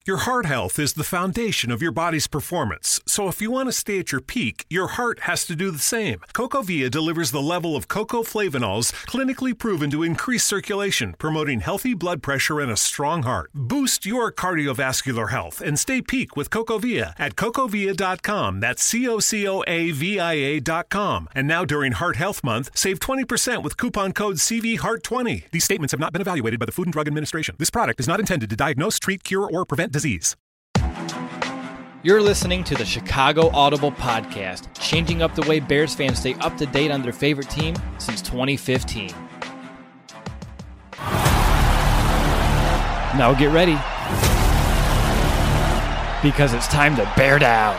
Your heart health is the foundation of your body's performance, so if you want to stay at your peak, your heart has to do the same. CocoVia delivers the level of cocoflavanols clinically proven to increase circulation, promoting healthy blood pressure and a strong heart. Boost your cardiovascular health and stay peak with CocoVia at cocovia.com. That's CocoVia.com. And now during Heart Health Month, save 20% with coupon code CVHEART20. These statements have not been evaluated by the Food and Drug Administration. This product is not intended to diagnose, treat, cure, or prevent disease. You're listening to the Chicago Audible Podcast, changing up the way Bears fans stay up to date on their favorite team since 2015. Now get ready, because it's time to bear down.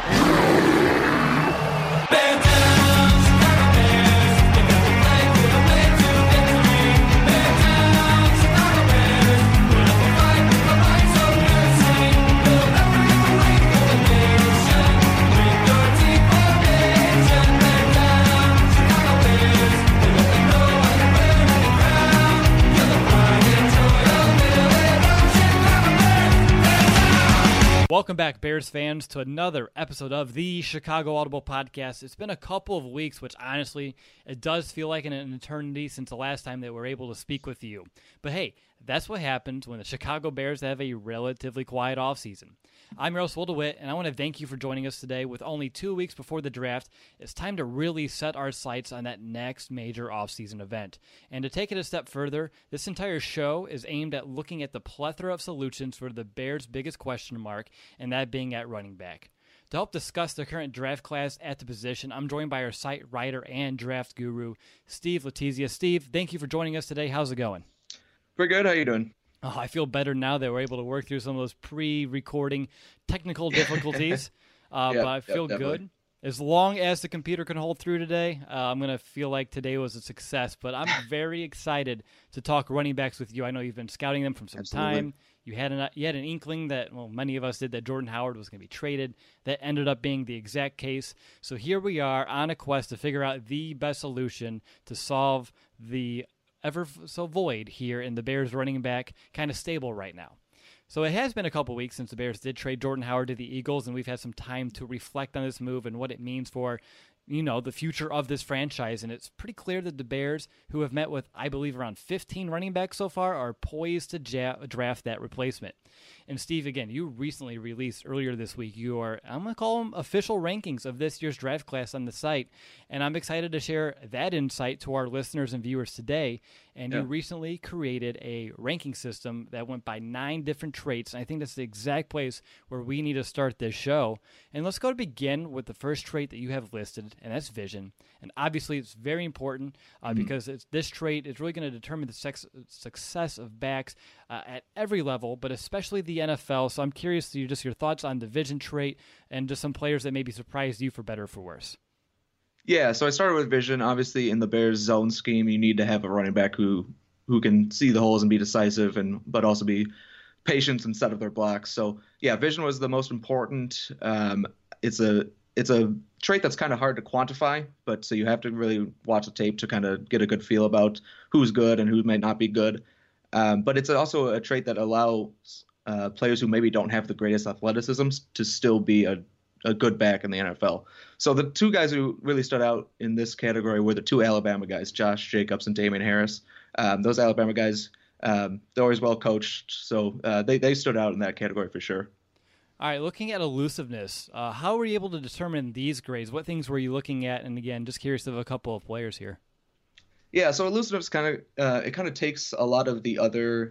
Welcome back, Bears fans, to another episode of the Chicago Audible Podcast. It's been a couple of weeks, which honestly, it does feel like an eternity since the last time that we were able to speak with you. But hey, that's what happens when the Chicago Bears have a relatively quiet offseason. I'm Russell DeWitt, and I want to thank you for joining us today. With only 2 weeks before the draft, it's time to really set our sights on that next major offseason event. And to take it a step further, this entire show is aimed at looking at the plethora of solutions for the Bears' biggest question mark, and that being at running back. To help discuss the current draft class at the position, I'm joined by our site writer and draft guru, Steve Letizia. Steve, thank you for joining us today. How's it going? Pretty good. How you doing? Oh, I feel better now that we're able to work through some of those pre-recording technical difficulties, but I feel good. As long as the computer can hold through today, I'm going to feel like today was a success. But I'm very excited to talk running backs with you. I know you've been scouting them from some time. You had an inkling that, well, many of us did, that Jordan Howard was going to be traded. That ended up being the exact case. So here we are on a quest to figure out the best solution to solve the ever so void here in the Bears running back kind of stable right now. So it has been a couple weeks since the Bears did trade Jordan Howard to the Eagles, and we've had some time to reflect on this move and what it means for, the future of this franchise. And it's pretty clear that the Bears, who have met with, I believe, around 15 running backs so far, are poised to draft that replacement. And Steve, again, you recently released earlier this week your, I'm going to call them official rankings of this year's draft class on the site. And I'm excited to share that insight to our listeners and viewers today. And you recently created a ranking system that went by 9 different traits. And I think that's the exact place where we need to start this show. And let's go to begin with the first trait that you have listed, and that's vision. And obviously it's very important because this trait is really going to determine the success of backs at every level, but especially the NFL. So I'm curious to just your thoughts on the vision trait and just some players that maybe surprised you for better or for worse. Yeah, so I started with vision. Obviously, in the Bears zone scheme, you need to have a running back who can see the holes and be decisive, but also be patient and set up their blocks. So yeah, vision was the most important. It's a trait that's kind of hard to quantify, but so you have to really watch the tape to kind of get a good feel about who's good and who might not be good. But it's also a trait that allows players who maybe don't have the greatest athleticism to still be a good back in the NFL. So the 2 guys who really stood out in this category were the 2 Alabama guys, Josh Jacobs and Damian Harris. Those Alabama guys, they're always well coached, so they stood out in that category for sure. All right, looking at elusiveness, how were you able to determine these grades? What things were you looking at? And again, just curious of a couple of players here. Yeah, so elusiveness kind of takes a lot of the other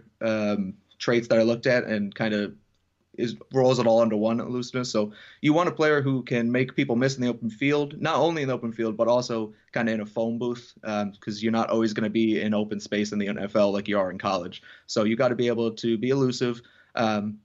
traits that I looked at and kind of rolls it all into one, elusiveness. So you want a player who can make people miss in the open field, not only in the open field, but also kind of in a phone booth, because you're not always going to be in open space in the NFL like you are in college. So you got to be able to be elusive. Not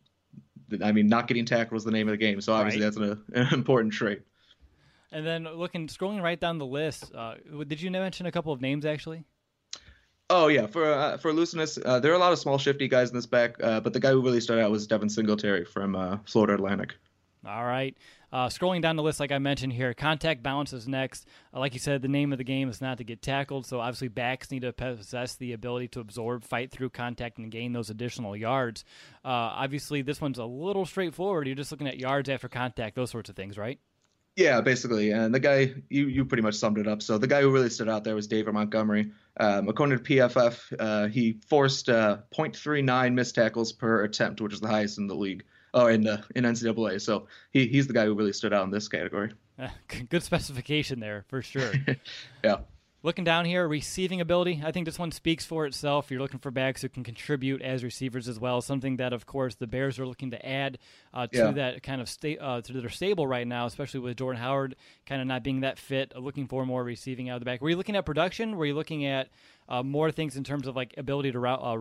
getting tackled was the name of the game. So obviously That's an important trait. And then scrolling right down the list, did you mention a couple of names actually? Oh, yeah. For elusiveness, there are a lot of small, shifty guys in this back, but the guy who really stood out was Devin Singletary from Florida Atlantic. All right. Scrolling down the list, like I mentioned here, contact balance is next. Like you said, the name of the game is not to get tackled, so obviously backs need to possess the ability to absorb, fight through contact, and gain those additional yards. Obviously, this one's a little straightforward. You're just looking at yards after contact, those sorts of things, right? Yeah, basically. And the guy, you pretty much summed it up. So the guy who really stood out there was David Montgomery. According to PFF, he forced 0.39 missed tackles per attempt, which is the highest in the league, in NCAA. So he's the guy who really stood out in this category. Good specification there, for sure. Yeah. Looking down here, receiving ability, I think this one speaks for itself. You're looking for backs who can contribute as receivers as well, something that, of course, the Bears are looking to add to that kind of to their stable right now, especially with Jordan Howard kind of not being that fit, looking for more receiving out of the back. Were you looking at production? Were you looking at more things in terms of like ability to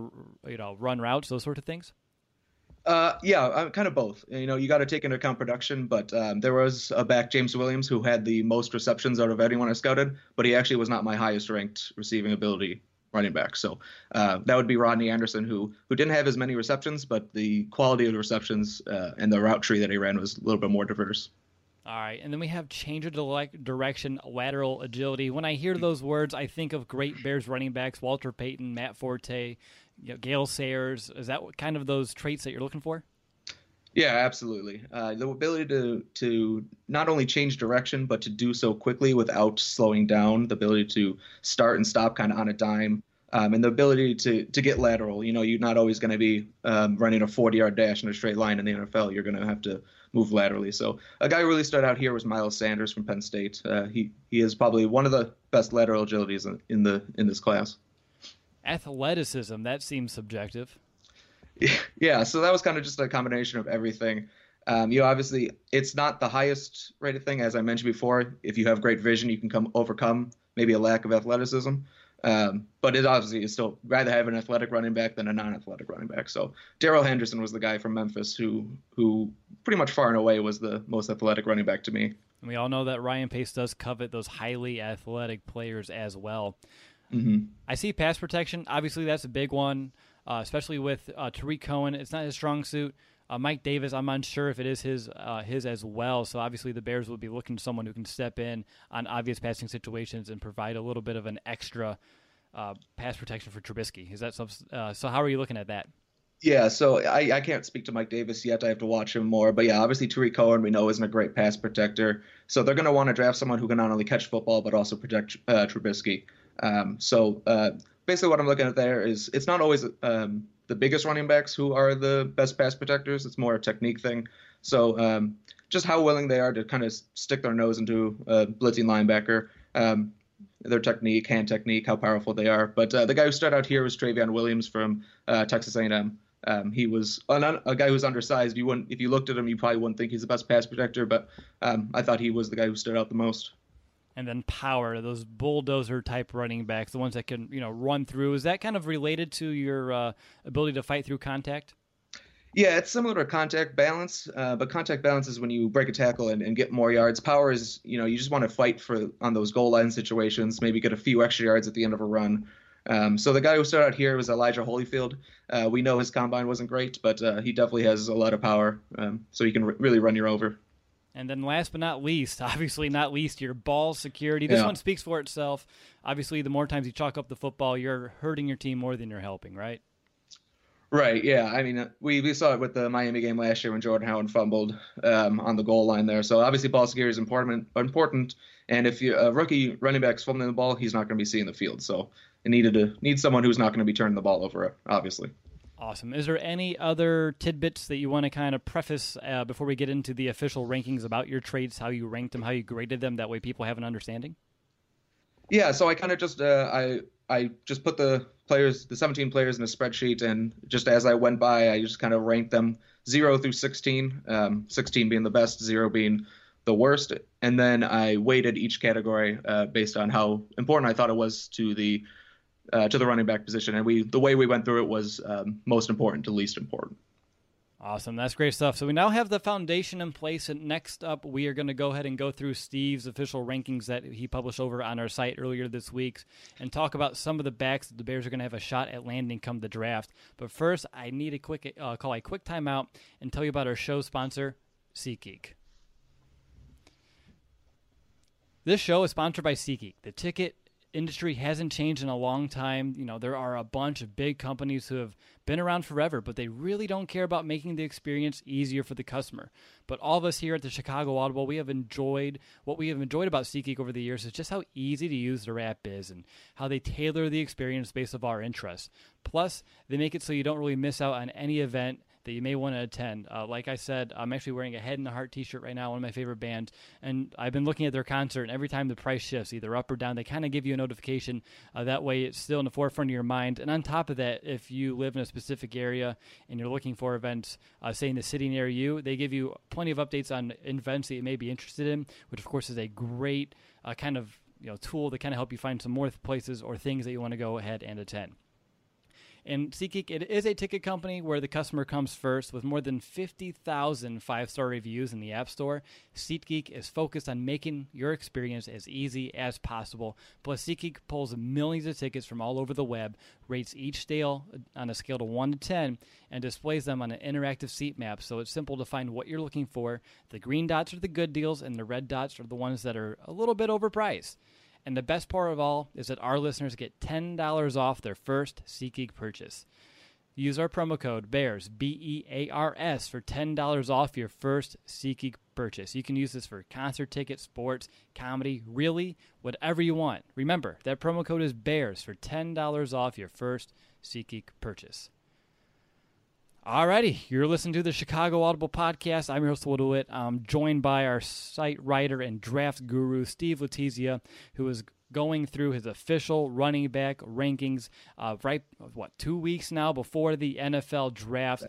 run routes, those sort of things? Yeah, kind of both. You got to take into account production, but there was a back, James Williams, who had the most receptions out of anyone I scouted, but he actually was not my highest ranked receiving ability running back. So that would be Rodney Anderson, who didn't have as many receptions, but the quality of the receptions and the route tree that he ran was a little bit more diverse. All right, and then we have change of direction, lateral agility. When I hear those words, I think of great Bears running backs, Walter Payton, Matt Forte, Gale Sayers. Is that kind of those traits that you're looking for? Yeah, absolutely. The ability to not only change direction, but to do so quickly without slowing down, the ability to start and stop kind of on a dime, and the ability to get lateral. You're not always going to be running a 40-yard dash in a straight line in the NFL. You're going to have to move laterally. So a guy who really stood out here was Miles Sanders from Penn State. He is probably one of the best lateral agilities in this class. Athleticism, that seems subjective. Yeah, so that was kind of just a combination of everything. Obviously, it's not the highest rated thing, as I mentioned before. If you have great vision, you can overcome maybe a lack of athleticism. But it obviously is still rather have an athletic running back than a non-athletic running back. So Darrell Henderson was the guy from Memphis who pretty much far and away was the most athletic running back to me. And we all know that Ryan Pace does covet those highly athletic players as well. Mm-hmm. I see pass protection. Obviously, that's a big one, especially with Tariq Cohen. It's not his strong suit. Mike Davis, I'm unsure if it is his as well. So obviously the Bears would be looking for someone who can step in on obvious passing situations and provide a little bit of an extra pass protection for Trubisky. Is that so? How are you looking at that? Yeah, so I can't speak to Mike Davis yet. I have to watch him more. But yeah, obviously Tariq Cohen we know isn't a great pass protector. So they're going to want to draft someone who can not only catch football but also protect Trubisky. Basically what I'm looking at there is it's not always the biggest running backs who are the best pass protectors. It's more a technique thing. So just how willing they are to kind of stick their nose into a blitzing linebacker, their technique, hand technique, how powerful they are. But the guy who stood out here was Travion Williams from Texas A&M. He was a guy who was undersized. If you looked at him, you probably wouldn't think he's the best pass protector, but I thought he was the guy who stood out the most. And then power, those bulldozer-type running backs, the ones that can run through. Is that kind of related to your ability to fight through contact? Yeah, it's similar to contact balance, but contact balance is when you break a tackle and get more yards. Power is, you just want to fight on those goal line situations, maybe get a few extra yards at the end of a run. So the guy who started out here was Elijah Holyfield. We know his combine wasn't great, but he definitely has a lot of power, so he can really run you over. And then last but not least, obviously not least, your ball security. This one speaks for itself. Obviously, the more times you chalk up the football, you're hurting your team more than you're helping, right? Right, yeah. I mean, we saw it with the Miami game last year when Jordan Howard fumbled on the goal line there. So obviously ball security is important. And if a rookie running back's fumbling the ball, he's not going to be seeing the field. So it needs someone who's not going to be turning the ball over, obviously. Awesome. Is there any other tidbits that you want to kind of preface before we get into the official rankings about your traits, how you ranked them, how you graded them? That way people have an understanding. Yeah, so I kind of just I just put the 17 players in a spreadsheet, and just as I went by, I just kind of ranked them 0 through 16, 16 being the best, 0 being the worst, and then I weighted each category based on how important I thought it was to the running back position, and the way we went through it was most important to least important. Awesome. That's great stuff. So we now have the foundation in place, and next up we are going to go ahead and go through Steve's official rankings that he published over on our site earlier this week and talk about some of the backs that the Bears are going to have a shot at landing come the draft. But first, I need call a quick timeout and tell you about our show sponsor, SeatGeek. This show is sponsored by SeatGeek. The ticket industry hasn't changed in a long time. There are a bunch of big companies who have been around forever, but they really don't care about making the experience easier for the customer. But all of us here at the Chicago Audible, what we have enjoyed about SeatGeek over the years is just how easy to use their app is and how they tailor the experience based on our interests. Plus, they make it so you don't really miss out on any event that you may want to attend. Like I said, I'm actually wearing a Head in the Heart t-shirt right now, one of my favorite bands, and I've been looking at their concert, and every time the price shifts, either up or down, they kind of give you a notification. That way it's still in the forefront of your mind. And on top of that, if you live in a specific area and you're looking for events, say in the city near you, they give you plenty of updates on events that you may be interested in, which of course is a great kind of tool to kind of help you find some more places or things that you want to go ahead and attend. And SeatGeek, it is a ticket company where the customer comes first. With more than 50,000 five-star reviews in the App Store, SeatGeek is focused on making your experience as easy as possible. Plus, SeatGeek pulls millions of tickets from all over the web, rates each deal on a scale of 1 to 10, and displays them on an interactive seat map, so it's simple to find what you're looking for. The green dots are the good deals, and the red dots are the ones that are a little bit overpriced. And the best part of all is that our listeners get $10 off their first SeatGeek purchase. Use our promo code BEARS, BEARS, for $10 off your first SeatGeek purchase. You can use this for concert tickets, sports, comedy, really, whatever you want. Remember, that promo code is BEARS for $10 off your first SeatGeek purchase. Alrighty, you're listening to the Chicago Audible Podcast. I'm your host, Will DeWitt. I'm joined by our site writer and draft guru, Steve Letizia, who is going through his official running back rankings 2 weeks now before the NFL draft.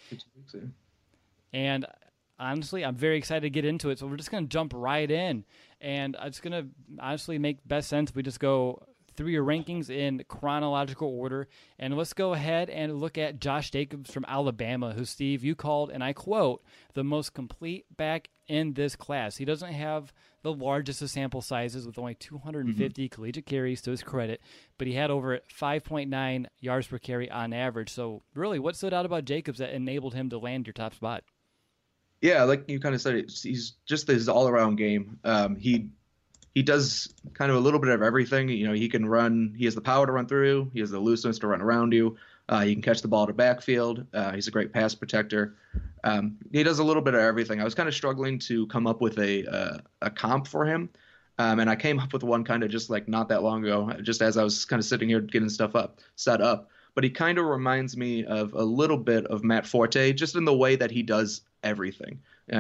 And honestly, I'm very excited to get into it, so we're just going to jump right in. And it's going to honestly make best sense if we just go through your rankings in chronological order. And let's go ahead and look at Josh Jacobs from Alabama, who, Steve, you called, and I quote, the most complete back in this class. He doesn't have the largest of sample sizes with only 250 collegiate carries to his credit, but he had over 5.9 yards per carry on average. So really, what stood out about Jacobs that enabled him to land your top spot? Yeah, like you kind of said, he's just his all-around game. He does kind of a little bit of everything. He can run. He has the power to run through. He has the looseness to run around you. He can catch the ball to backfield. He's a great pass protector. He does a little bit of everything. I was kind of struggling to come up with a comp for him. And I came up with one kind of just like not that long ago, just as I was kind of sitting here getting stuff set up. But he kind of reminds me of a little bit of Matt Forte, just in the way that he does everything.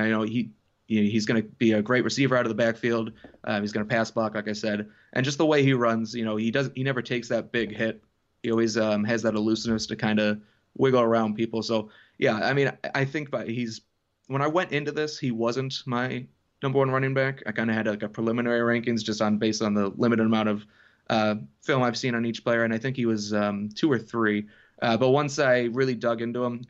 He's going to be a great receiver out of the backfield. He's going to pass block, like I said, and just the way he runs. He never takes that big hit. He always has that elusiveness to kind of wiggle around people. So yeah, I mean, I think when I went into this, he wasn't my number one running back. I kind of had like a preliminary rankings just based on the limited amount of film I've seen on each player, and I think he was 2 or 3. But once I really dug into him,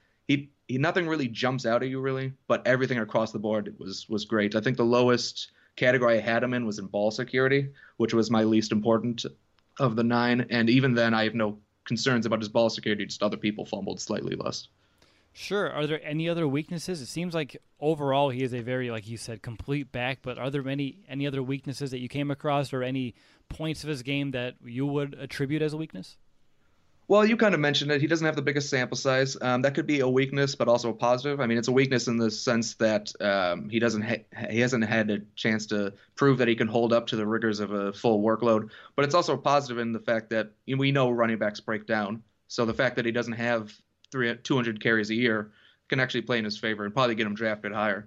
he nothing really jumps out at you really, but everything across the board was great. I think the lowest category I had him in was in ball security, which was my least important of the 9. And even then, I have no concerns about his ball security. Just other people fumbled slightly less. Sure. Are there any other weaknesses? It seems like overall he is a very, like you said, complete back, but are there any other weaknesses that you came across or any points of his game that you would attribute as a weakness? Well, you kind of mentioned it. He doesn't have the biggest sample size. That could be a weakness, but also a positive. I mean, it's a weakness in the sense that he hasn't had a chance to prove that he can hold up to the rigors of a full workload. But it's also a positive in the fact that we know running backs break down. So the fact that he doesn't have 200 carries a year can actually play in his favor and probably get him drafted higher.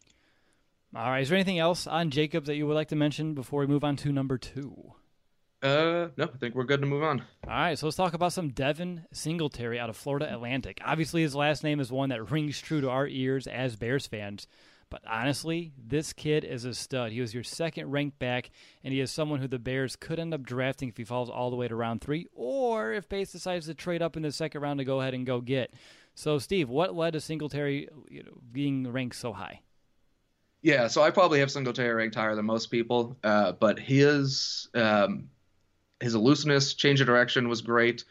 All right. Is there anything else on Jacobs that you would like to mention before we move on to number 2? No, I think we're good to move on. All right, so let's talk about some Devin Singletary out of Florida Atlantic. Obviously, his last name is one that rings true to our ears as Bears fans. But honestly, this kid is a stud. He was your second ranked back, and he is someone who the Bears could end up drafting if he falls all the way to round 3, or if Bates decides to trade up in the second round to go ahead and go get. So, Steve, what led to Singletary being ranked so high? Yeah, so I probably have Singletary ranked higher than most people, but his elusiveness, change of direction was great.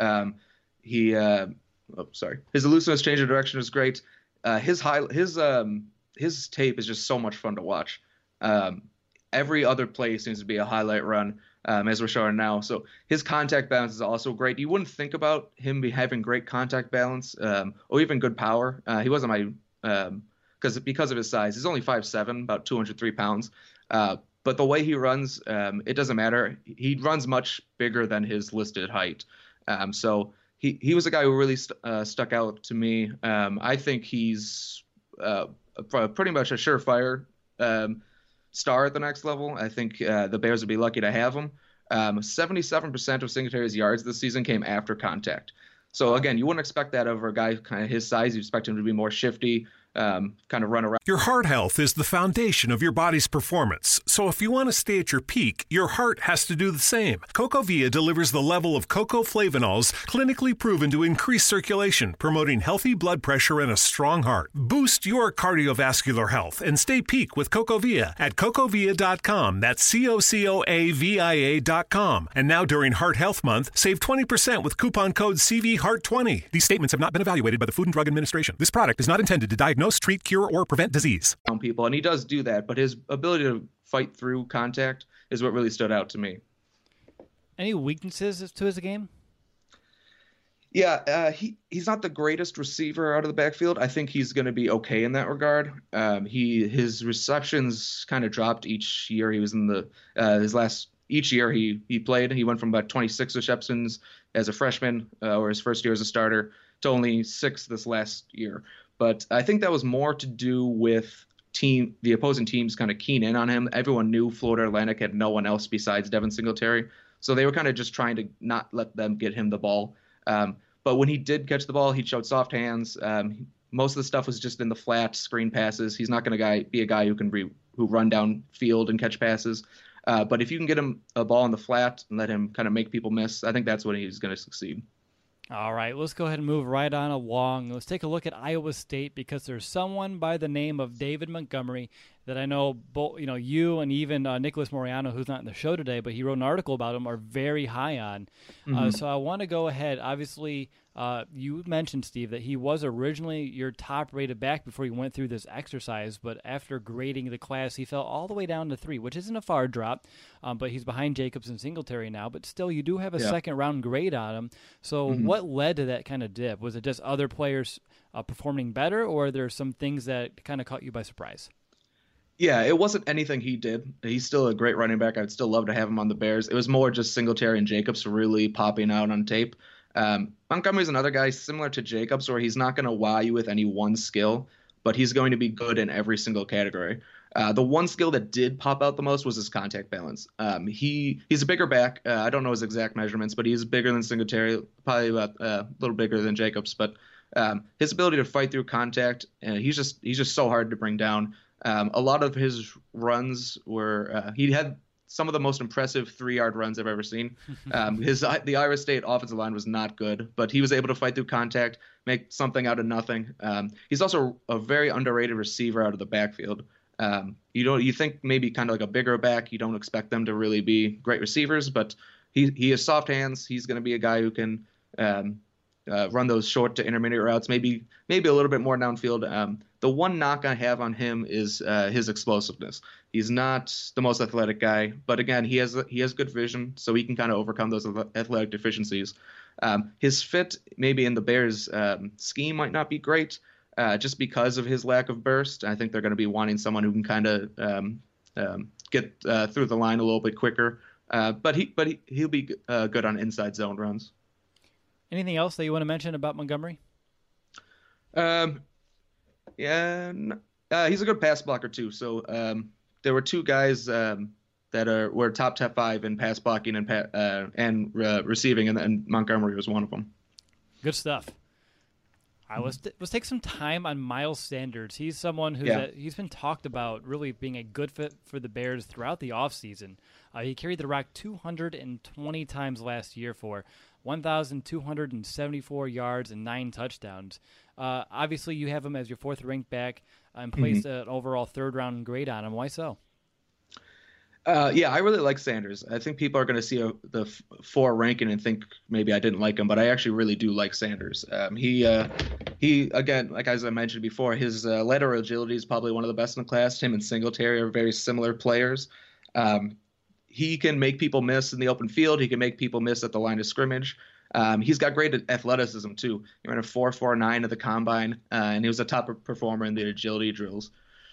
His elusiveness, change of direction was great. His tape is just so much fun to watch. every other play seems to be a highlight run, as we're showing now. So his contact balance is also great. You wouldn't think about him having great contact balance or even good power. He wasn't my because of his size. He's only 5'7", about 203 pounds. But the way he runs, it doesn't matter. He runs much bigger than his listed height. So he was a guy who really stuck out to me. I think he's pretty much a surefire star at the next level. I think the Bears would be lucky to have him. 77% of Singletary's yards this season came after contact. So again, you wouldn't expect that over a guy kind of his size. You expect him to be more shifty, kind of run around. Your heart health is the foundation of your body's performance. So if you want to stay at your peak, your heart has to do the same. CocoVia delivers the level of cocoflavanols clinically proven to increase circulation, promoting healthy blood pressure and a strong heart. Boost your cardiovascular health and stay peak with CocoVia at cocovia.com. That's CocoAVIA.com. And now during Heart Health Month, save 20% with coupon code CVHEART20. These statements have not been evaluated by the Food and Drug Administration. This product is not intended to diagnose, treat, cure, or prevent disease. People, and he does do that, but his ability to fight through contact is what really stood out to me. Any weaknesses to his game? Yeah, he's not the greatest receiver out of the backfield. I think he's going to be okay in that regard. His receptions kind of dropped each year. He was in the each year he played. He went from about 26 receptions as a freshman or his first year as a starter to only 6 this last year. But I think that was more to do with the opposing teams kind of keen in on him. Everyone knew Florida Atlantic had no one else besides Devin Singletary. So they were kind of just trying to not let them get him the ball. But when he did catch the ball, he showed soft hands. Most of the stuff was just in the flat screen passes. He's not going to be a guy who run down field and catch passes. But if you can get him a ball in the flat and let him kind of make people miss, I think that's when he's going to succeed. All right, let's go ahead and move right on along. Let's take a look at Iowa State because there's someone by the name of David Montgomery that I know both, you and even Nicholas Moriano, who's not in the show today, but he wrote an article about him, are very high on. So I want to go ahead. Obviously, you mentioned, Steve, that he was originally your top-rated back before he went through this exercise, but after grading the class, he fell all the way down to 3, which isn't a far drop, but he's behind Jacobs and Singletary now, but still you do have a second-round grade on him. So what led to that kind of dip? Was it just other players performing better, or are there some things that kind of caught you by surprise? Yeah, it wasn't anything he did. He's still a great running back. I'd still love to have him on the Bears. It was more just Singletary and Jacobs really popping out on tape. Montgomery's another guy similar to Jacobs where he's not going to wow you with any one skill, but he's going to be good in every single category. The one skill that did pop out the most was his contact balance. He's a bigger back. I don't know his exact measurements, but he's bigger than Singletary, probably about a little bigger than Jacobs. But his ability to fight through contact, he's just so hard to bring down. A lot of his runs were he had some of the most impressive 3-yard runs I've ever seen. The Iowa State offensive line was not good, but he was able to fight through contact, make something out of nothing. He's also a very underrated receiver out of the backfield. You think maybe kind of like a bigger back, you don't expect them to really be great receivers, but he has soft hands. He's going to be a guy who can run those short to intermediate routes, maybe a little bit more downfield. The one knock I have on him is his explosiveness. He's not the most athletic guy, but again, he has good vision, so he can kind of overcome those athletic deficiencies. His fit maybe in the Bears' scheme might not be great, just because of his lack of burst. I think they're going to be wanting someone who can kind of get through the line a little bit quicker. But he'll be good on inside zone runs. Anything else that you want to mention about Montgomery? He's a good pass blocker too. So there were 2 guys that were top 5 in pass blocking and receiving, and Montgomery was one of them. Good stuff. All right, let's take some time on Miles Sanders. He's someone he's been talked about really being a good fit for the Bears throughout the offseason. He carried the rock 220 times last year for 1,274 yards and 9 touchdowns. Obviously, you have him as your 4th-ranked back and placed an overall 3rd-round grade on him. Why so? I really like Sanders. I think people are going to see the 4 ranking and think maybe I didn't like him, but I actually really do like Sanders. He again, like as I mentioned before, his lateral agility is probably one of the best in the class. Him and Singletary are very similar players. He can make people miss in the open field. He can make people miss at the line of scrimmage. He's got great athleticism too. He ran a 4.49 at the combine, and he was a top performer in the agility drills.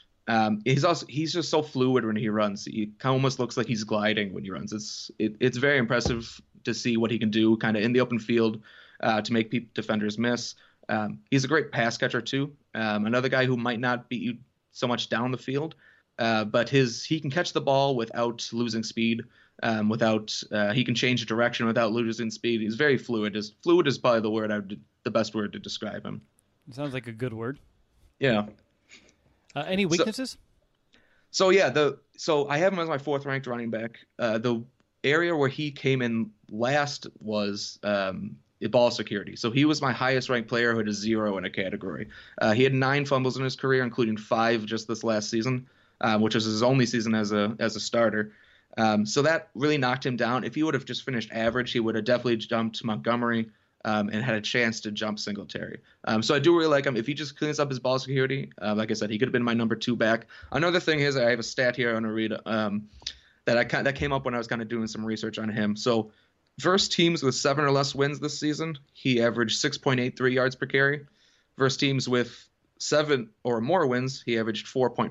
He's just so fluid when he runs. He almost looks like he's gliding when he runs. It's very impressive to see what he can do kind of in the open field to make defenders miss. He's a great pass catcher too. Another guy who might not beat you so much down the field, but he can catch the ball without losing speed. He can change direction without losing speed. He's very fluid. Fluid is probably the best word to describe him. It sounds like a good word. Yeah. Any weaknesses? So I have him as my 4th ranked running back. The area where he came in last was ball security. So he was my highest ranked player who had a 0 in a category. He had 9 fumbles in his career, including 5 just this last season, which was his only season as a starter. So that really knocked him down. If he would have just finished average, he would have definitely jumped Montgomery and had a chance to jump Singletary. So I do really like him. If he just cleans up his ball security, like I said, he could have been my number 2 back. Another thing is I have a stat here I want to read that came up when I was kind of doing some research on him. So versus teams with 7 or less wins this season, he averaged 6.83 yards per carry. Versus teams with 7 or more wins, he averaged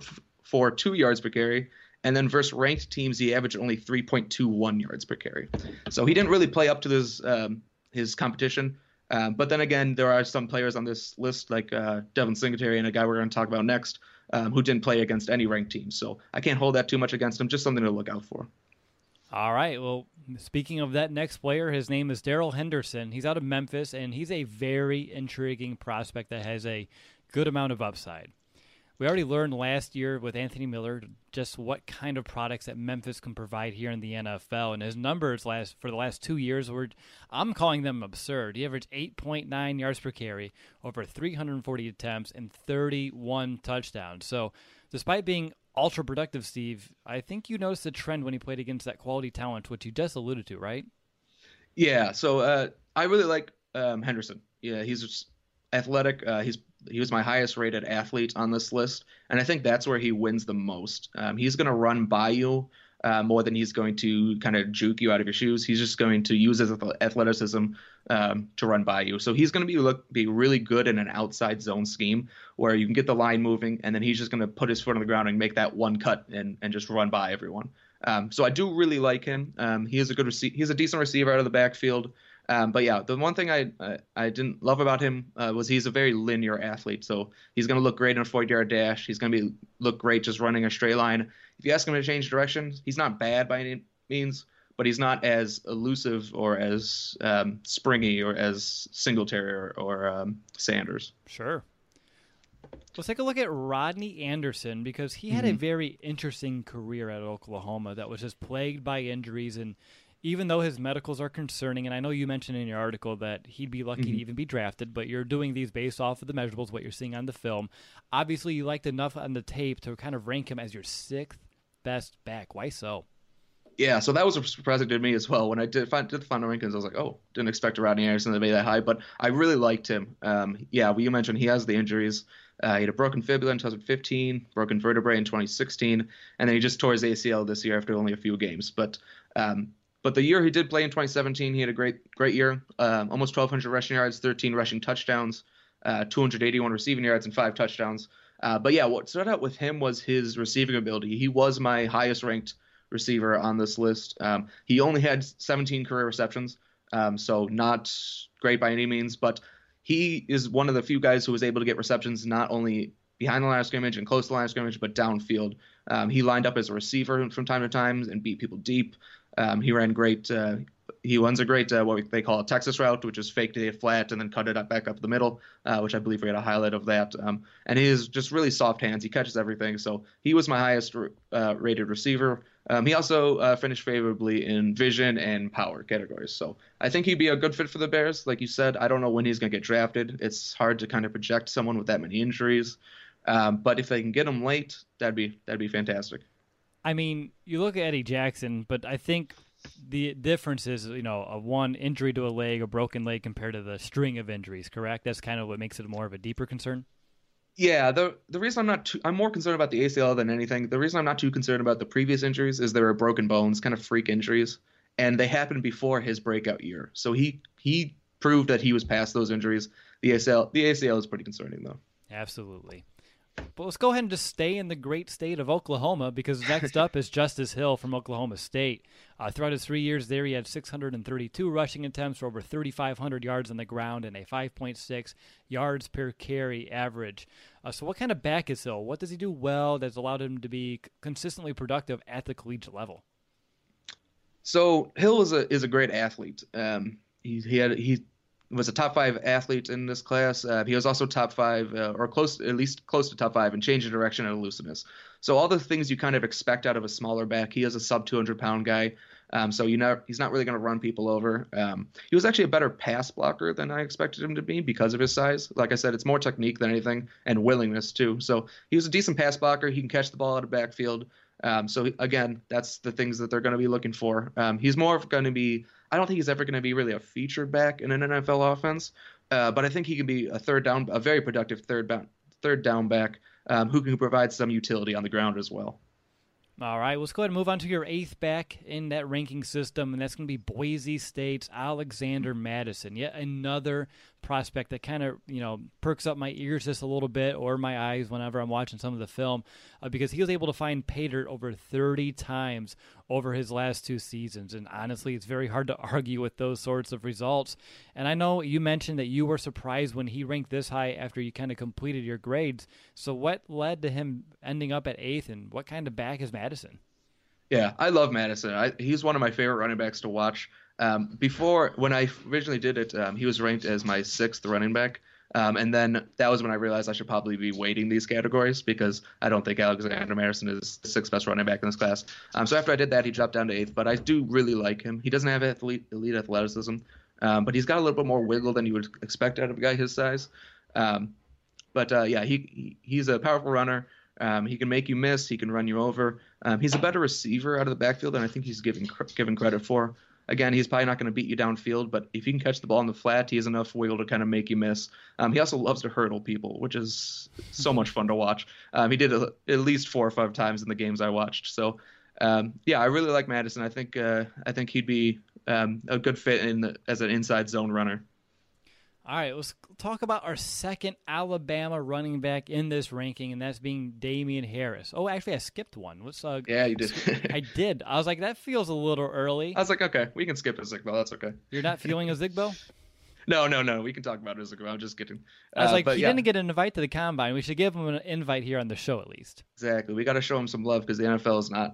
4.42 yards per carry. And then versus ranked teams, he averaged only 3.21 yards per carry. So he didn't really play up to his competition. But then again, there are some players on this list like Devin Singletary and a guy we're going to talk about next who didn't play against any ranked teams. So I can't hold that too much against him. Just something to look out for. All right. Well, speaking of that next player, his name is Darrell Henderson. He's out of Memphis, and he's a very intriguing prospect that has a good amount of upside. We already learned last year with Anthony Miller just what kind of products that Memphis can provide here in the NFL. And his numbers for the last 2 years, I'm calling them absurd. He averaged 8.9 yards per carry, over 340 attempts, and 31 touchdowns. So despite being ultra productive, Steve, I think you noticed a trend when he played against that quality talent, which you just alluded to, right? Yeah, so I really like Henderson. Yeah, he's just athletic. He was my highest rated athlete on this list, and I think that's where he wins the most. He's going to run by you more than he's going to kind of juke you out of your shoes. He's just going to use his athleticism to run by you. So he's going to be really good in an outside zone scheme where you can get the line moving, and then he's just going to put his foot on the ground and make that one cut and just run by everyone. So I do really like him. He is he's a decent receiver out of the backfield. But yeah, the one thing I didn't love about him was he's a very linear athlete. So he's going to look great in a 40-yard dash. He's going to look great just running a straight line. If you ask him to change direction, he's not bad by any means, but he's not as elusive or as springy or as Singletary or Sanders. Sure. Let's take a look at Rodney Anderson because he had a very interesting career at Oklahoma that was just plagued by injuries. And even though his medicals are concerning, and I know you mentioned in your article that he'd be lucky to even be drafted, but you're doing these based off of the measurables, what you're seeing on the film. Obviously, you liked enough on the tape to kind of rank him as your 6th best back. Why so? Yeah, so that was surprising to me as well. When I did the final rankings, I was like, oh, didn't expect Rodney Anderson to be that high, but I really liked him. You mentioned he has the injuries. He had a broken fibula in 2015, broken vertebrae in 2016, and then he just tore his ACL this year after only a few games. But the year he did play in 2017, he had a great year. Almost 1,200 rushing yards, 13 rushing touchdowns, 281 receiving yards, and 5 touchdowns. What stood out with him was his receiving ability. He was my highest ranked receiver on this list. He only had 17 career receptions, so not great by any means, but he is one of the few guys who was able to get receptions not only behind the line of scrimmage and close to the line of scrimmage, but downfield. He lined up as a receiver from time to time and beat people deep. He ran great. He runs a great what they call a Texas route, which is fake to the flat and then cut it back up the middle, which I believe we had a highlight of that. And he has just really soft hands. He catches everything. So he was my highest rated receiver. He also finished favorably in vision and power categories. So I think he'd be a good fit for the Bears. Like you said, I don't know when he's going to get drafted. It's hard to kind of project someone with that many injuries. But if they can get him late, that'd be fantastic. I mean, you look at Eddie Jackson, but I think the difference is, a one injury to a leg, a broken leg compared to the string of injuries, correct? That's kind of what makes it more of a deeper concern? Yeah, the reason I'm more concerned about the ACL than anything. The reason I'm not too concerned about the previous injuries is there were broken bones, kind of freak injuries, and they happened before his breakout year. So he proved that he was past those injuries. The ACL is pretty concerning though. Absolutely. But let's go ahead and just stay in the great state of Oklahoma, because next up is Justice Hill from Oklahoma State. Throughout his 3 years there, he had 632 rushing attempts for over 3,500 yards on the ground and a 5.6 yards per carry average. So what kind of back is Hill? What does he do well that's allowed him to be consistently productive at the collegiate level? So Hill is a great athlete. He was a top 5 athlete in this class. He was also top 5 or at least close to top 5 in change of direction and elusiveness. So all the things you kind of expect out of a smaller back. He is a sub 200-pound guy. So he's not really going to run people over. He was actually a better pass blocker than I expected him to be because of his size. Like I said, it's more technique than anything and willingness too. So he was a decent pass blocker. He can catch the ball out of backfield. Again, that's the things that they're going to be looking for. He's more going to be. I don't think he's ever going to be really a featured back in an NFL offense, but I think he can be a very productive third down back who can provide some utility on the ground as well. All right, let's go ahead and move on to your 8th back in that ranking system, and that's going to be Boise State's Alexander Mattison. Yet another prospect that kind of, perks up my ears just a little bit, or my eyes whenever I'm watching some of the film, because he was able to find pay dirt over 30 times over his last 2 seasons. And honestly, it's very hard to argue with those sorts of results. And I know you mentioned that you were surprised when he ranked this high after you kind of completed your grades. So what led to him ending up at 8th, and what kind of back is Mattison? Yeah, I love Mattison. He's one of my favorite running backs to watch. When I originally did it, he was ranked as my 6th running back. And then that was when I realized I should probably be weighting these categories because I don't think Alexander Mattison is the 6th best running back in this class. So after I did that, he dropped down to 8th, but I do really like him. He doesn't have elite athleticism, but he's got a little bit more wiggle than you would expect out of a guy his size. He's a powerful runner. He can make you miss. He can run you over. He's a better receiver out of the backfield than I think he's given credit for. Again, he's probably not going to beat you downfield, but if he can catch the ball in the flat, he has enough wiggle to kind of make you miss. He also loves to hurdle people, which is so much fun to watch. He did it at least 4 or 5 times in the games I watched. So, I really like Mattison. I think he'd be a good fit as an inside zone runner. All right, let's talk about our second Alabama running back in this ranking, and that's being Damien Harris. Oh, actually, I skipped one. Yeah, you did. I did. I was like, that feels a little early. I was like, okay, we can skip Ozigbo. That's okay. You're not feeling Ozigbo? No. We can talk about Ozigbo. I'm just kidding. I was like, he didn't get an invite to the Combine. We should give him an invite here on the show at least. Exactly. We got to show him some love because the NFL is not.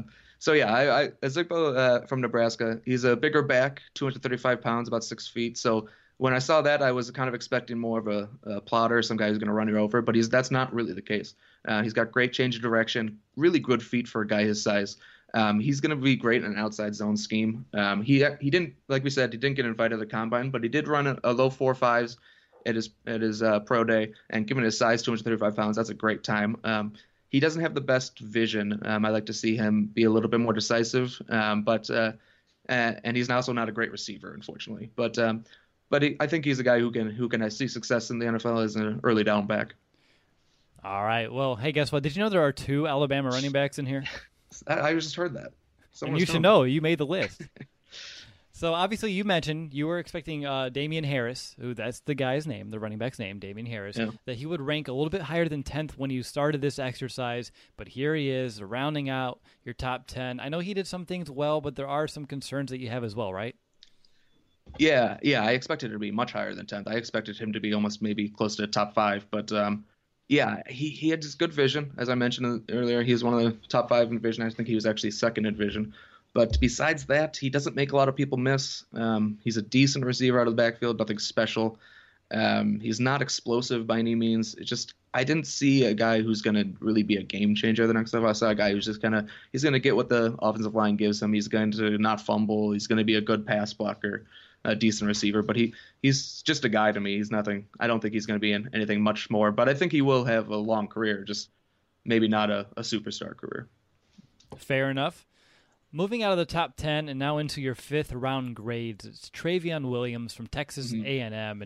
Ozigbo from Nebraska, he's a bigger back, 235 pounds, about 6 feet. So when I saw that, I was kind of expecting more of a plotter, some guy who's going to run you over, but that's not really the case. He's got great change of direction, really good feet for a guy his size. He's going to be great in an outside zone scheme. He didn't, like we said, he didn't get invited to the Combine, but he did run a low 4.5s at his pro day, and given his size, 235 pounds, that's a great time. He doesn't have the best vision. I like to see him be a little bit more decisive, and he's also not a great receiver, unfortunately. But I think he's a guy who can see success in the NFL as an early down back. All right. Well, hey, guess what? Did you know there are 2 Alabama running backs in here? I just heard that. And you should know. You made the list. So obviously you mentioned you were expecting Damien Harris, who that's the guy's name, the running back's name, Damien Harris, that he would rank a little bit higher than 10th when you started this exercise. But here he is rounding out your top 10. I know he did some things well, but there are some concerns that you have as well, right? Yeah. I expected it to be much higher than 10th. I expected him to be almost maybe close to top 5. But, he had just good vision. As I mentioned earlier, he was one of the top 5 in vision. I think he was actually second in vision. But besides that, he doesn't make a lot of people miss. He's a decent receiver out of the backfield, nothing special. He's not explosive by any means. It's just I didn't see a guy who's going to really be a game changer the next time. I saw a guy who's just he's going to get what the offensive line gives him. He's going to not fumble. He's going to be a good pass blocker, a decent receiver. But he's just a guy to me. He's nothing. I don't think he's going to be in anything much more. But I think he will have a long career, just maybe not a superstar career. Fair enough. Moving out of the top 10 and now into your 5th round grades, it's Travion Williams from Texas A&M. And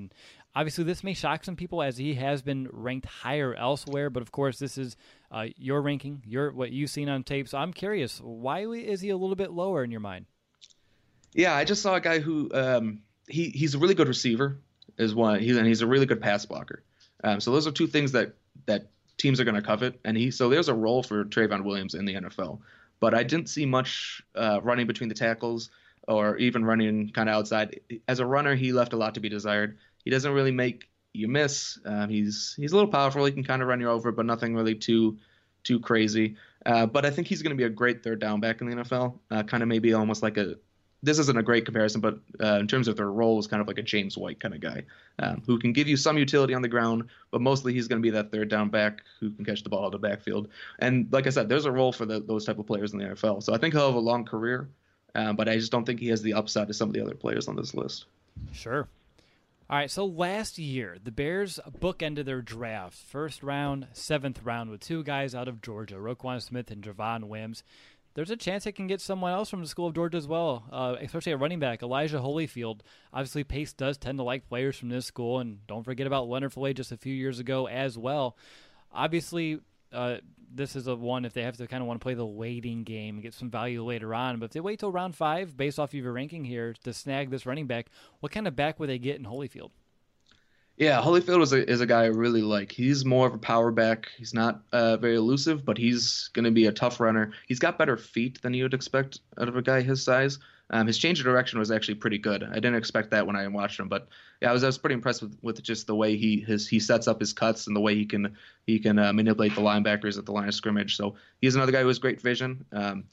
Obviously, this may shock some people as he has been ranked higher elsewhere, but of course, this is your ranking, what you've seen on tape. So I'm curious, why is he a little bit lower in your mind? Yeah, I just saw a guy who he's a really good receiver, is one. He's a really good pass blocker. So those are two things that teams are going to covet. So there's a role for Trayveon Williams in the NFL, but I didn't see much running between the tackles or even running kind of outside. As a runner, he left a lot to be desired. He doesn't really make you miss. He's a little powerful. He can kind of run you over, but nothing really too crazy. But I think he's going to be a great third down back in the NFL. Kind of maybe almost like this isn't a great comparison, but in terms of their role, is kind of like a James White kind of guy who can give you some utility on the ground, but mostly he's going to be that third down back who can catch the ball out of the backfield. And like I said, there's a role for those type of players in the NFL. So I think he'll have a long career, but I just don't think he has the upside of some of the other players on this list. Sure. All right, so last year, the Bears bookended their draft, first round, seventh round, with two guys out of Georgia, Roquan Smith and Javon Wims. There's a chance they can get someone else from the School of Georgia as well, especially a running back, Elijah Holyfield. Obviously, Pace does tend to like players from this school, and don't forget about Leonard Floyd just a few years ago as well. Obviously, this is a one if they have to kind of want to play the waiting game and get some value later on. But if they wait till round 5, based off of your ranking here, to snag this running back, what kind of back would they get in Holyfield? Yeah, Holyfield is a guy I really like. He's more of a power back. He's not very elusive, but he's going to be a tough runner. He's got better feet than you would expect out of a guy his size. His change of direction was actually pretty good. I didn't expect that when I watched him, but yeah, I was pretty impressed with just the way he sets up his cuts and the way he can manipulate the linebackers at the line of scrimmage. So he's another guy who has great vision.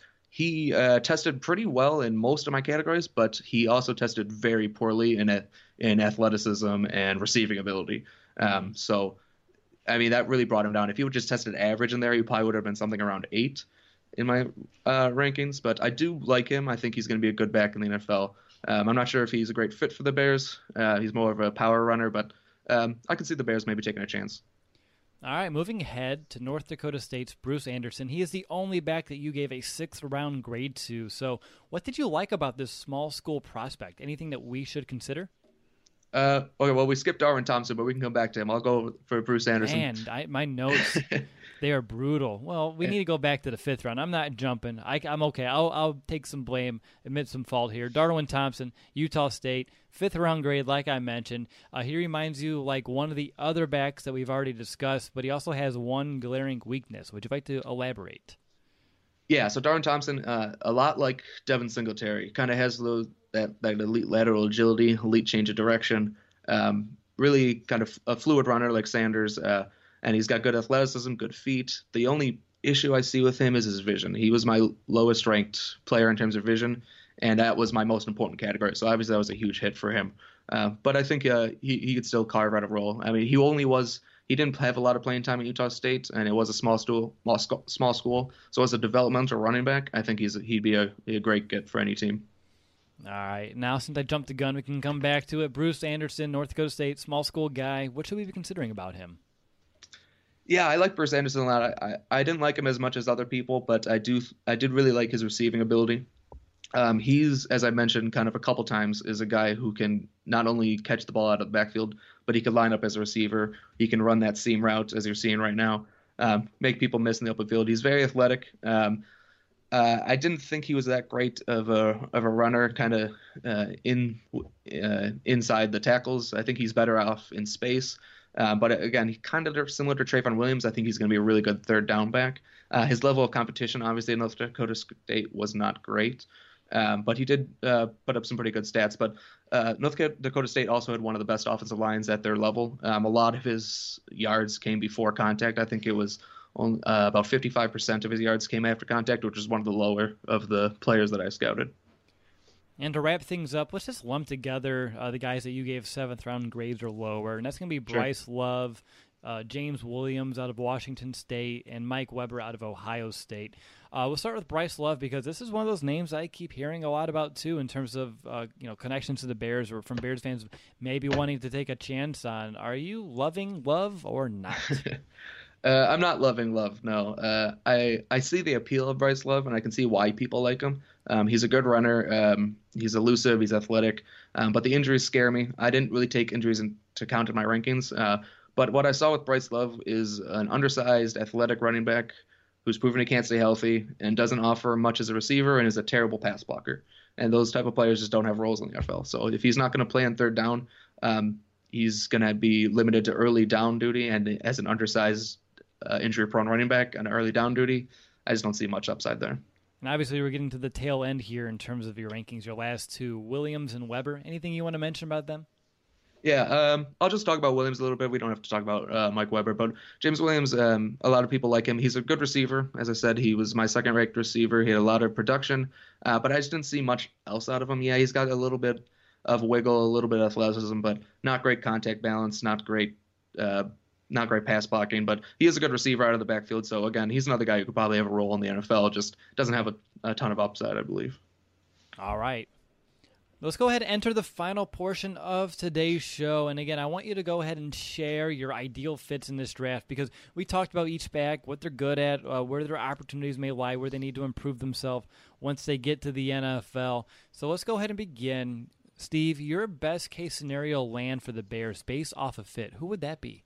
He tested pretty well in most of my categories, but he also tested very poorly in athleticism and receiving ability. So, I mean, that really brought him down. If he would just tested average in there, he probably would have been something around 8 in my rankings. But I do like him. I think he's going to be a good back in the NFL. I'm not sure if he's a great fit for the Bears. He's more of a power runner, but I can see the Bears maybe taking a chance. All right, moving ahead to North Dakota State's Bruce Anderson. He is the only back that you gave a 6th-round grade to. So what did you like about this small school prospect? Anything that we should consider? Okay, well, we skipped Darwin Thompson, but we can come back to him. I'll go for Bruce Anderson. Man, my notes, they are brutal. Well, we need to go back to the 5th round. I'm not jumping. I'm okay. I'll take some blame, admit some fault here. Darwin Thompson, Utah State, 5th-round grade, like I mentioned. He reminds you like one of the other backs that we've already discussed, but he also has one glaring weakness. Would you like to elaborate? Yeah, so Darwin Thompson, a lot like Devin Singletary, kind of has that elite lateral agility, elite change of direction, really kind of a fluid runner like Sanders, and he's got good athleticism, good feet. The only issue I see with him is his vision. He was my lowest ranked player in terms of vision, and that was my most important category. So obviously that was a huge hit for him. But I think he could still carve out a role. I mean, he didn't have a lot of playing time at Utah State, and it was a small school. So as a developmental running back, I think he'd be a great get for any team. All right. Now, since I jumped the gun, we can come back to it. Bruce Anderson, North Dakota State, small school guy. What should we be considering about him? Yeah, I like Bruce Anderson a lot. I didn't like him as much as other people, but I did really like his receiving ability. He's, as I mentioned kind of a couple times, is a guy who can not only catch the ball out of the backfield, but he can line up as a receiver. He can run that seam route, as you're seeing right now, make people miss in the open field. He's very athletic. I didn't think he was that great of a runner, kind of inside the tackles. I think he's better off in space. But again, he kind of similar to Trayveon Williams. I think he's going to be a really good third down back. His level of competition, obviously, in North Dakota State was not great. But he did put up some pretty good stats. But North Dakota State also had one of the best offensive lines at their level. A lot of his yards came before contact. I think it was about 55% of his yards came after contact, which is one of the lower of the players that I scouted. And to wrap things up, let's just lump together the guys that you gave 7th-round grades or lower. And that's going to be Bryce Love, James Williams out of Washington State, and Mike Weber out of Ohio State. We'll start with Bryce Love because this is one of those names I keep hearing a lot about too in terms of connections to the Bears or from Bears fans maybe wanting to take a chance on. Are you loving Love or not? I'm not loving Love, no. I see the appeal of Bryce Love, and I can see why people like him. He's a good runner. He's elusive. He's athletic. But the injuries scare me. I didn't really take injuries to count in my rankings. But what I saw with Bryce Love is an undersized, athletic running back who's proven he can't stay healthy and doesn't offer much as a receiver and is a terrible pass blocker. And those type of players just don't have roles in the NFL. So if he's not going to play on third down, he's going to be limited to early down duty. And as an undersized, injury-prone running back on early down duty, I just don't see much upside there. And obviously, we're getting to the tail end here in terms of your rankings. Your last two, Williams and Weber. Anything you want to mention about them? Yeah, I'll just talk about Williams a little bit. We don't have to talk about Mike Weber, but James Williams, a lot of people like him. He's a good receiver. As I said, he was my second-ranked receiver. He had a lot of production, but I just didn't see much else out of him. Yeah, he's got a little bit of wiggle, a little bit of athleticism, but not great contact balance, not great pass blocking, but he is a good receiver out of the backfield. So, again, he's another guy who could probably have a role in the NFL, just doesn't have a ton of upside, I believe. All right. Let's go ahead and enter the final portion of today's show. And again, I want you to go ahead and share your ideal fits in this draft because we talked about each back, what they're good at, where their opportunities may lie, where they need to improve themselves once they get to the NFL. So let's go ahead and begin. Steve, your best case scenario land for the Bears based off of fit. Who would that be?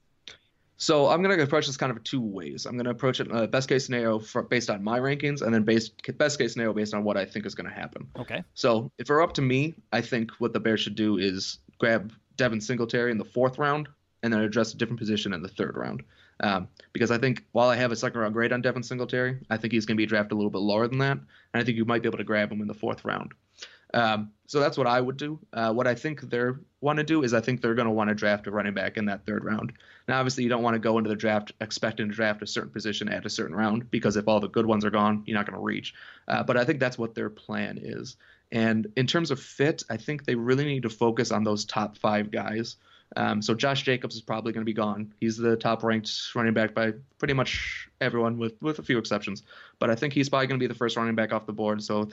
So I'm going to approach this kind of two ways. I'm going to approach it best case scenario based on my rankings, and then best case scenario based on what I think is going to happen. Okay. So if it were up to me, I think what the Bears should do is grab Devin Singletary in the 4th round and then address a different position in the 3rd round. Because I think while I have a 2nd round grade on Devin Singletary, I think he's going to be drafted a little bit lower than that, and I think you might be able to grab him in the 4th round. So that's what I would do. What I think they want to do is I think they're going to want to draft a running back in that 3rd round. Now, obviously, you don't want to go into the draft expecting to draft a certain position at a certain round because if all the good ones are gone, you're not going to reach. But I think that's what their plan is. And in terms of fit, I think they really need to focus on those top 5 guys. So Josh Jacobs is probably going to be gone. He's the top-ranked running back by pretty much everyone, with a few exceptions. But I think he's probably going to be the first running back off the board. So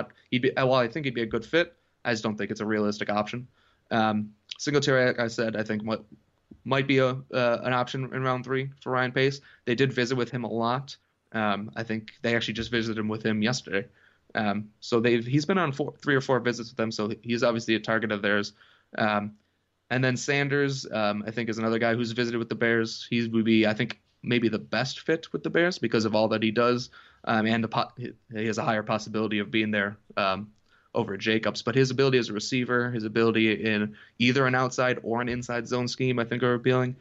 I think he'd be a good fit. I just don't think it's a realistic option. Singletary, like I said, I think might be an option in round 3 for Ryan Pace. They did visit with him a lot. I think they actually just visited with him yesterday. So he's been on 3 or 4 visits with them. So he's obviously a target of theirs. And then Sanders, I think, is another guy who's visited with the Bears. He would be, I think, maybe the best fit with the Bears because of all that he does, and he has a higher possibility of being there over Jacobs. But his ability as a receiver, his ability in either an outside or an inside zone scheme, I think, are appealing.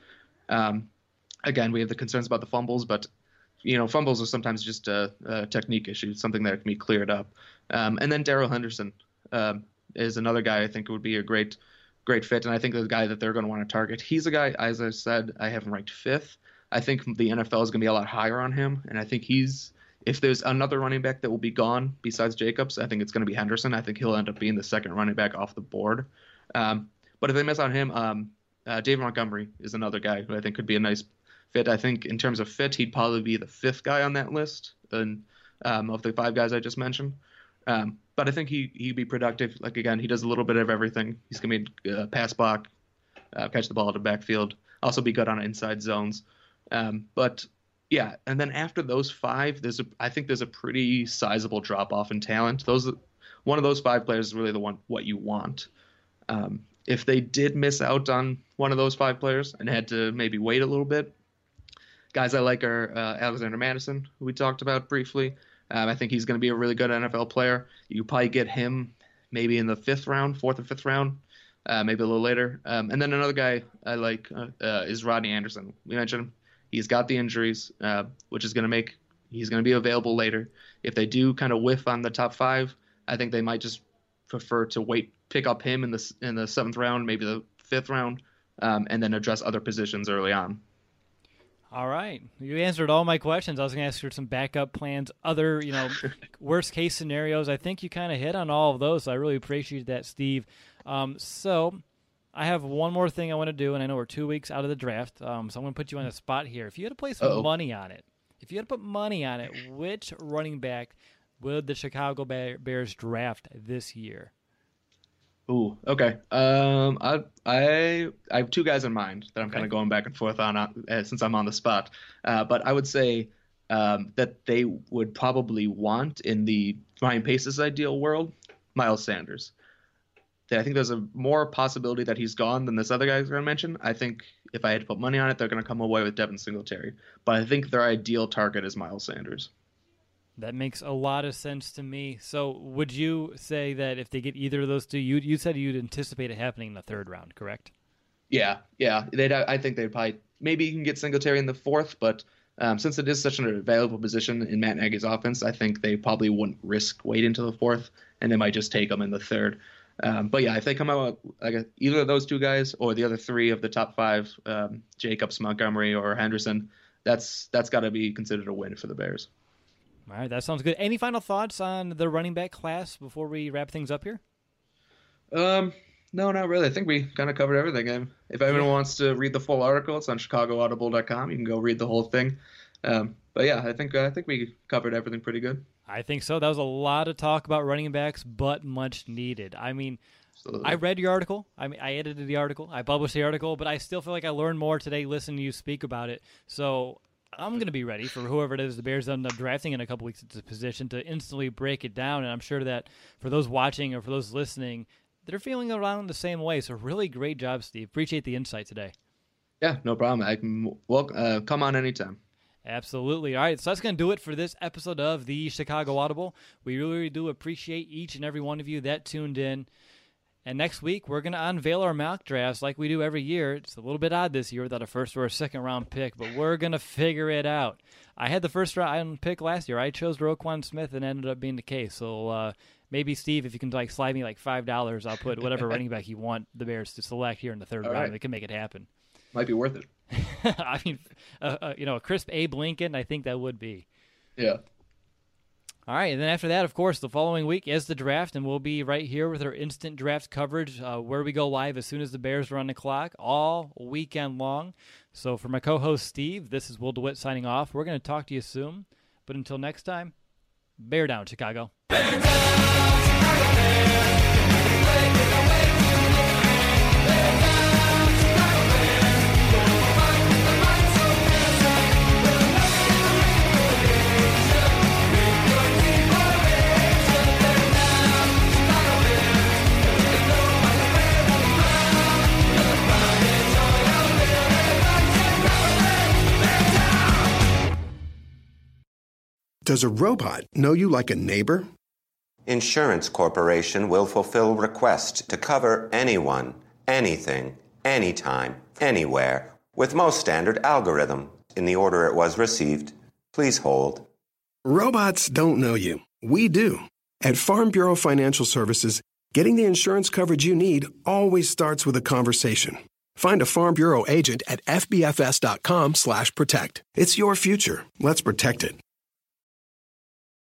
Again, we have the concerns about the fumbles, but fumbles are sometimes just a technique issue, something that can be cleared up. And then Darrell Henderson is another guy I think would be a great fit, and I think the guy that they're going to want to target. He's a guy, as I said, I have him ranked 5th. I think the NFL is going to be a lot higher on him, and I think if there's another running back that will be gone besides Jacobs, I think it's going to be Henderson. I think he'll end up being the 2nd running back off the board. But if they miss on him, David Montgomery is another guy who I think could be a nice fit. I think in terms of fit, he'd probably be the 5th guy on that list of the 5 guys I just mentioned. But I think he'd be productive. Like, again, he does a little bit of everything. He's going to be pass block, catch the ball at the backfield, also be good on inside zones. But, yeah, and then after those 5, I think there's a pretty sizable drop-off in talent. One of those 5 players is really what you want. If they did miss out on one of those 5 players and had to maybe wait a little bit, guys I like are Alexander Mattison, who we talked about briefly. I think he's going to be a really good NFL player. You probably get him maybe in the 4th or 5th round, maybe a little later. And then another guy I like is Rodney Anderson. We mentioned him. He's got the injuries, which is going to make he's going to be available later. If they do kind of whiff on the top 5, I think they might just prefer to pick up him in the 7th round, maybe the 5th round, and then address other positions early on. All right. You answered all my questions. I was going to ask for some backup plans, other, worst case scenarios. I think you kind of hit on all of those. So I really appreciate that, Steve. So I have one more thing I want to do, and I know we're 2 weeks out of the draft. So I'm going to put you on the spot here. If you had to place some money on it, which running back would the Chicago Bears draft this year? Ooh, okay. I have 2 guys in mind that I'm kind of going back and forth on since I'm on the spot. But I would say that they would probably want in the Ryan Pace's ideal world, Miles Sanders. I think there's a more possibility that he's gone than this other guy going to mention. I think if I had to put money on it, they're going to come away with Devin Singletary. But I think their ideal target is Miles Sanders. That makes a lot of sense to me. So would you say that if they get either of those two, you said you'd anticipate it happening in the third round, correct? Yeah. I think they'd probably maybe you can get Singletary in the fourth, but since it is such an available position in Matt Nagy's offense, I think they probably wouldn't risk waiting to the fourth, and they might just take him in the third. But yeah, if they come out like either of those two guys or the other three of the top five, Jacobs, Montgomery, or Henderson, that's got to be considered a win for the Bears. All right, that sounds good. Any final thoughts on the running back class before we wrap things up here? No, not really. I think we kind of covered everything. If anyone wants to read the full article, it's on ChicagoAudible.com. You can go read the whole thing. But yeah, I think we covered everything pretty good. I think so. That was a lot of talk about running backs, but much needed. I mean, absolutely. I read your article. I edited the article. I published the article, but I still feel like I learned more today listening to you speak about it. So I'm going to be ready for whoever it is the Bears end up drafting in a couple weeks at this position to instantly break it down. And I'm sure that for those watching or for those listening, they're feeling around the same way. So really great job, Steve. Appreciate the insight today. Yeah, no problem. I can come on anytime. Absolutely. All right, so that's going to do it for this episode of the Chicago Audible. We really do appreciate each and every one of you that tuned in. And next week, we're going to unveil our mock drafts like we do every year. It's a little bit odd this year without a first or a second round pick, but we're going to figure it out. I had the first round pick last year. I chose Roquan Smith, and it ended up being the case. So maybe, Steve, if you can slide me $5, I'll put whatever running back you want the Bears to select here in the third round. Right. They can make it happen. Might be worth it. I mean, a crisp Abe Lincoln, I think that would be. Yeah. All right, and then after that, of course, the following week is the draft, and we'll be right here with our instant draft coverage where we go live as soon as the Bears are on the clock all weekend long. So for my co-host, Steve, this is Will DeWitt signing off. We're going to talk to you soon, but until next time, Bear down, Chicago. Bear down, Chicago Bears. Does a robot know you like a neighbor? Insurance Corporation will fulfill request to cover anyone, anything, anytime, anywhere, with most standard algorithm in the order it was received. Please hold. Robots don't know you. We do. At Farm Bureau Financial Services, getting the insurance coverage you need always starts with a conversation. Find a Farm Bureau agent at fbfs.com/protect. It's your future. Let's protect it.